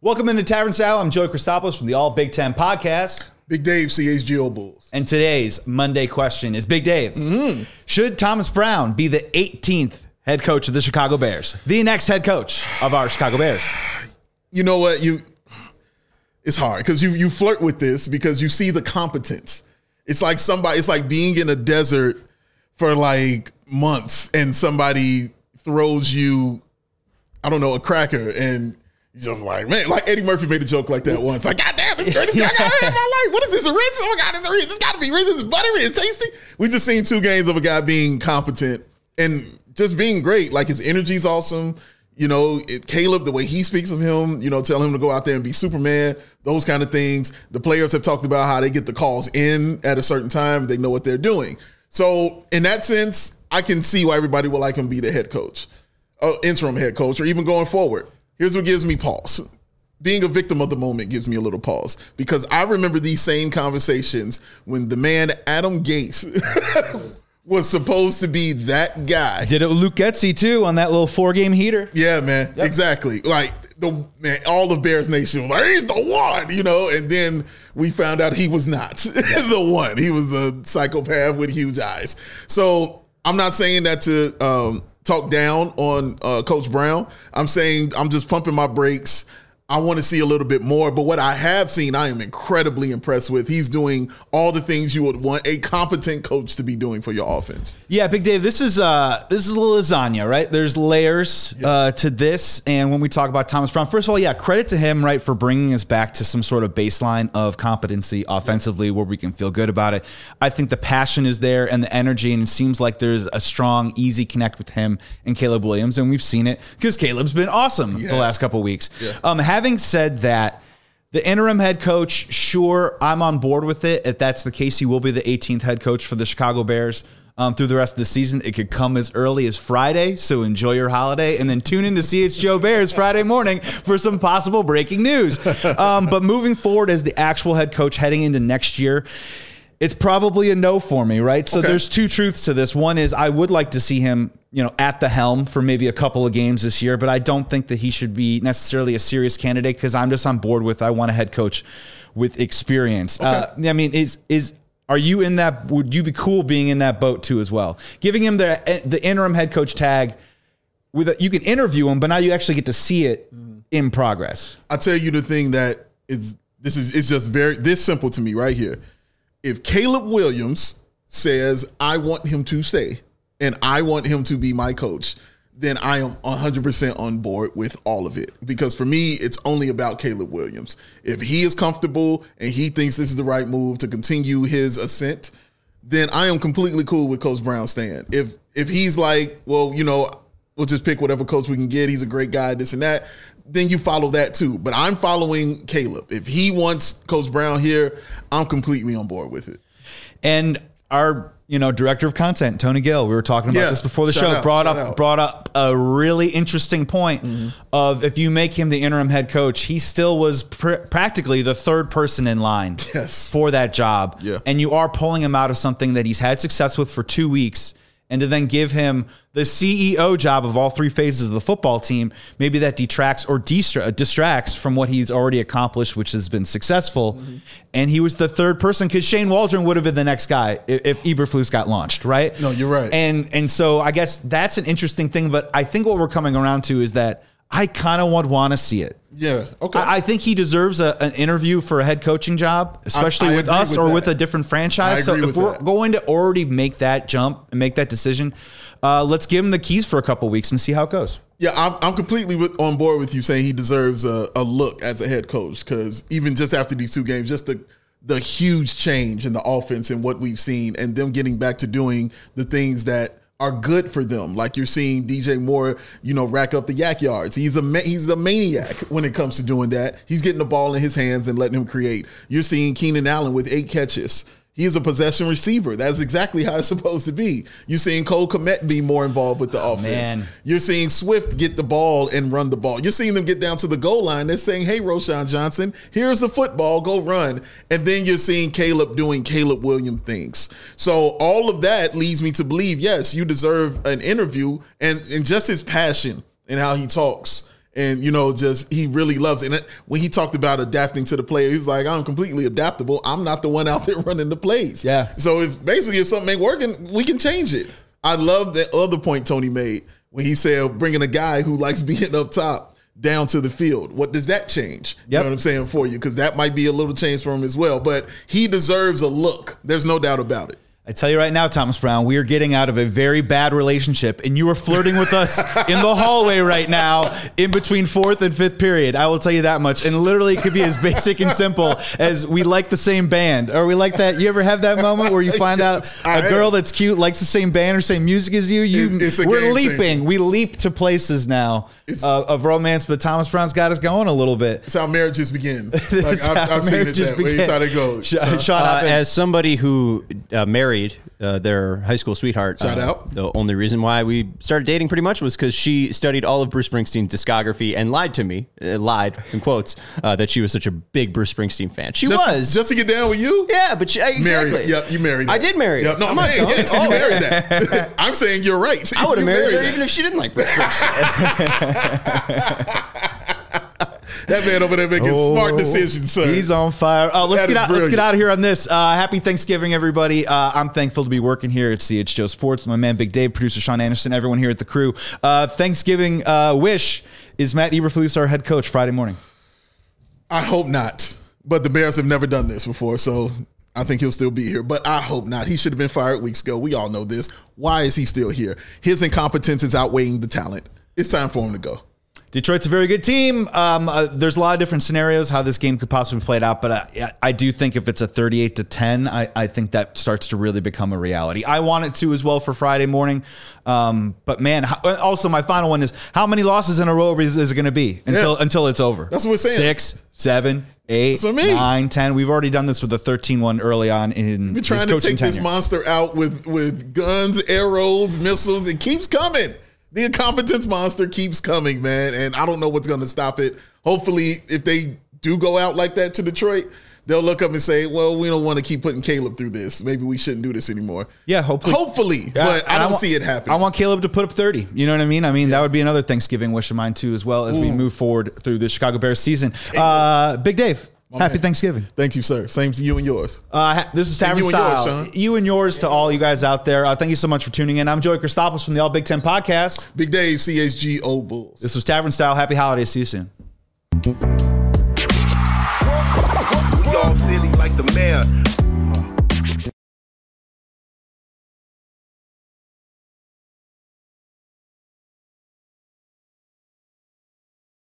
Welcome into Tavern Style. I'm Joey Christopoulos from the All Big Ten Podcast. Big Dave, CHGO Bulls. And today's Monday question is, Big Dave, should Thomas Brown be the 18th head coach of the Chicago Bears? The next head coach of our Chicago Bears? You know what? It's hard because you flirt with this because you see the competence. It's like being in a desert for like months and somebody throws you, I don't know, a cracker and you're just like, man, like Eddie Murphy made a joke like that once. Like, God damn, it's the greatest thing I got in my life. What is this, a Ritz? Oh my God, it's a Ritz. It's got to be Ritz. It's buttery. It's tasty. We just seen 2 games of a guy being competent and just being great. Like his energy's awesome. You know, Caleb, the way he speaks of him, you know, tell him to go out there and be Superman, those kind of things. The players have talked about how they get the calls in at a certain time. They know what they're doing. So in that sense, I can see why everybody would like him to be the head coach, interim head coach, or even going forward. Here's what gives me pause. Being a victim of the moment gives me a little pause because I remember these same conversations when the man Adam Gase was supposed to be that guy. Did it with Luke Getsy, too, on that little 4-game heater. Yeah, man. Yep. Exactly. Like, all of Bears Nation was like, he's the one, you know? And then we found out he was not the one. He was a psychopath with huge eyes. So I'm not saying that to talk down on Coach Brown. I'm saying I'm just pumping my brakes. I want to see a little bit more, but what I have seen, I am incredibly impressed with. He's doing all the things you would want a competent coach to be doing for your offense. Yeah, Big Dave, this is lasagna, right? There's layers to this, and when we talk about Thomas Brown, first of all, yeah, credit to him, right, for bringing us back to some sort of baseline of competency offensively where we can feel good about it. I think the passion is there and the energy, and it seems like there's a strong, easy connect with him and Caleb Williams, and we've seen it because Caleb's been awesome the last couple of weeks. Yeah. Having said that, the interim head coach, sure, I'm on board with it. If that's the case, he will be the 18th head coach for the Chicago Bears through the rest of the season. It could come as early as Friday, so enjoy your holiday, and then tune in to CHGO Bears Friday morning for some possible breaking news. But moving forward as the actual head coach heading into next year, it's probably a no for me, right? So there's 2 truths to this. One is I would like to see him, at the helm for maybe a couple of games this year, but I don't think that he should be necessarily a serious candidate because I'm just on board with I want a head coach with experience. I mean, are you in that? Would you be cool being in that boat too as well? Giving him the interim head coach tag you can interview him, but now you actually get to see it in progress. I'll tell you the thing that it's just this simple to me right here. If Caleb Williams says, I want him to stay and I want him to be my coach, then I am 100% on board with all of it. Because for me, it's only about Caleb Williams. If he is comfortable and he thinks this is the right move to continue his ascent, then I am completely cool with Coach Brown staying. If he's like, well, we'll just pick whatever coach we can get. He's a great guy, this and that. Then you follow that too. But I'm following Caleb. If he wants Coach Brown here, I'm completely on board with it. And our, director of content, Tony Gill, we were talking about this before the show, brought up a really interesting point of if you make him the interim head coach, he still was practically the 3rd person in line for that job. Yeah. And you are pulling him out of something that he's had success with for 2 weeks. And to then give him the CEO job of all 3 phases of the football team, maybe that detracts or distracts from what he's already accomplished, which has been successful. And he was the 3rd person because Shane Waldron would have been the next guy if Eberflus got launched, right? No, you're right. And so I guess that's an interesting thing. But I think what we're coming around to is that I kind of want to see it. Yeah, okay. I think he deserves an interview for a head coaching job, especially with us or with a different franchise. So if we're going to already make that jump and make that decision, let's give him the keys for a couple of weeks and see how it goes. Yeah, I'm completely on board with you saying he deserves a look as a head coach because even just after these 2 games, just the huge change in the offense and what we've seen and them getting back to doing the things that are good for them. Like you're seeing DJ Moore, rack up the yak yards. He's a maniac when it comes to doing that. He's getting the ball in his hands and letting him create. You're seeing Keenan Allen with 8 catches. He is a possession receiver. That's exactly how it's supposed to be. You're seeing Cole Kmet be more involved with the offense. Man. You're seeing Swift get the ball and run the ball. You're seeing them get down to the goal line. They're saying, hey, Roschon Johnson, here's the football, go run. And then you're seeing Caleb doing Caleb Williams things. So all of that leads me to believe, yes, you deserve an interview and just his passion and how he talks And, just he really loves it. And when he talked about adapting to the player, he was like, I'm completely adaptable. I'm not the one out there running the plays. Yeah. So if something ain't working, we can change it. I love that other point Tony made when he said bringing a guy who likes being up top down to the field. What does that change? Yep. You know what I'm saying for you? Because that might be a little change for him as well. But he deserves a look. There's no doubt about it. I tell you right now, Thomas Brown, we are getting out of a very bad relationship, and you are flirting with us in the hallway right now in between fourth and fifth period. I will tell you that much. And literally, it could be as basic and simple as we like the same band. Or we like that. You ever have that moment where you find out a girl that's cute likes the same band or same music as you? We're leaping. Changer. We leap to places now of romance, but Thomas Brown's got us going a little bit. It's how marriages begin. Like, I've seen it that way. It's how they go. As somebody who married their high school sweetheart. Shout out. The only reason why we started dating pretty much was because she studied all of Bruce Springsteen's discography and lied to me, lied in quotes, that she was such a big Bruce Springsteen fan. She was. Just to get down with you? Yeah, but exactly. Married. Yep, you married her. I did marry her. Yep. No, I'm saying, yes, you married that. I'm saying you're right. I would have married her even if she didn't like Bruce Springsteen. That man over there making smart decisions, sir. He's on fire. Let's get out of here on this. Happy Thanksgiving, everybody. I'm thankful to be working here at CHGO Sports. My man Big Dave, producer Sean Anderson, everyone here at the crew. Thanksgiving wish. Is Matt Eberflus our head coach Friday morning? I hope not. But the Bears have never done this before, so I think he'll still be here. But I hope not. He should have been fired weeks ago. We all know this. Why is he still here? His incompetence is outweighing the talent. It's time for him to go. Detroit's a very good team. There's a lot of different scenarios how this game could possibly play out, but I do think if it's a 38-10, I think that starts to really become a reality. I want it to as well for Friday morning. But man, also my final one is how many losses in a row is it going to be until it's over? That's what we're saying. 6, 7, 8, 9, 10. We've already done this with the 13-1 early on in his coaching tenure. We're trying to take this monster out with guns, arrows, missiles. It keeps coming. The incompetence monster keeps coming, man, and I don't know what's going to stop it. Hopefully, if they do go out like that to Detroit, they'll look up and say, well, we don't want to keep putting Caleb through this. Maybe we shouldn't do this anymore. Yeah, hopefully. But I don't see it happening. I want Caleb to put up 30. You know what I mean? That would be another Thanksgiving wish of mine, too, as well as we move forward through the Chicago Bears season. Big Dave. Happy Thanksgiving. Thank you, sir. Same to you and yours. This is Tavern Style. You and yours to all you guys out there. Thank you so much for tuning in. I'm Joey Christopoulos from the All Big Ten Podcast. Big Dave, CHGO Bulls. This was Tavern Style. Happy holidays. See you soon. We all silly like the mayor.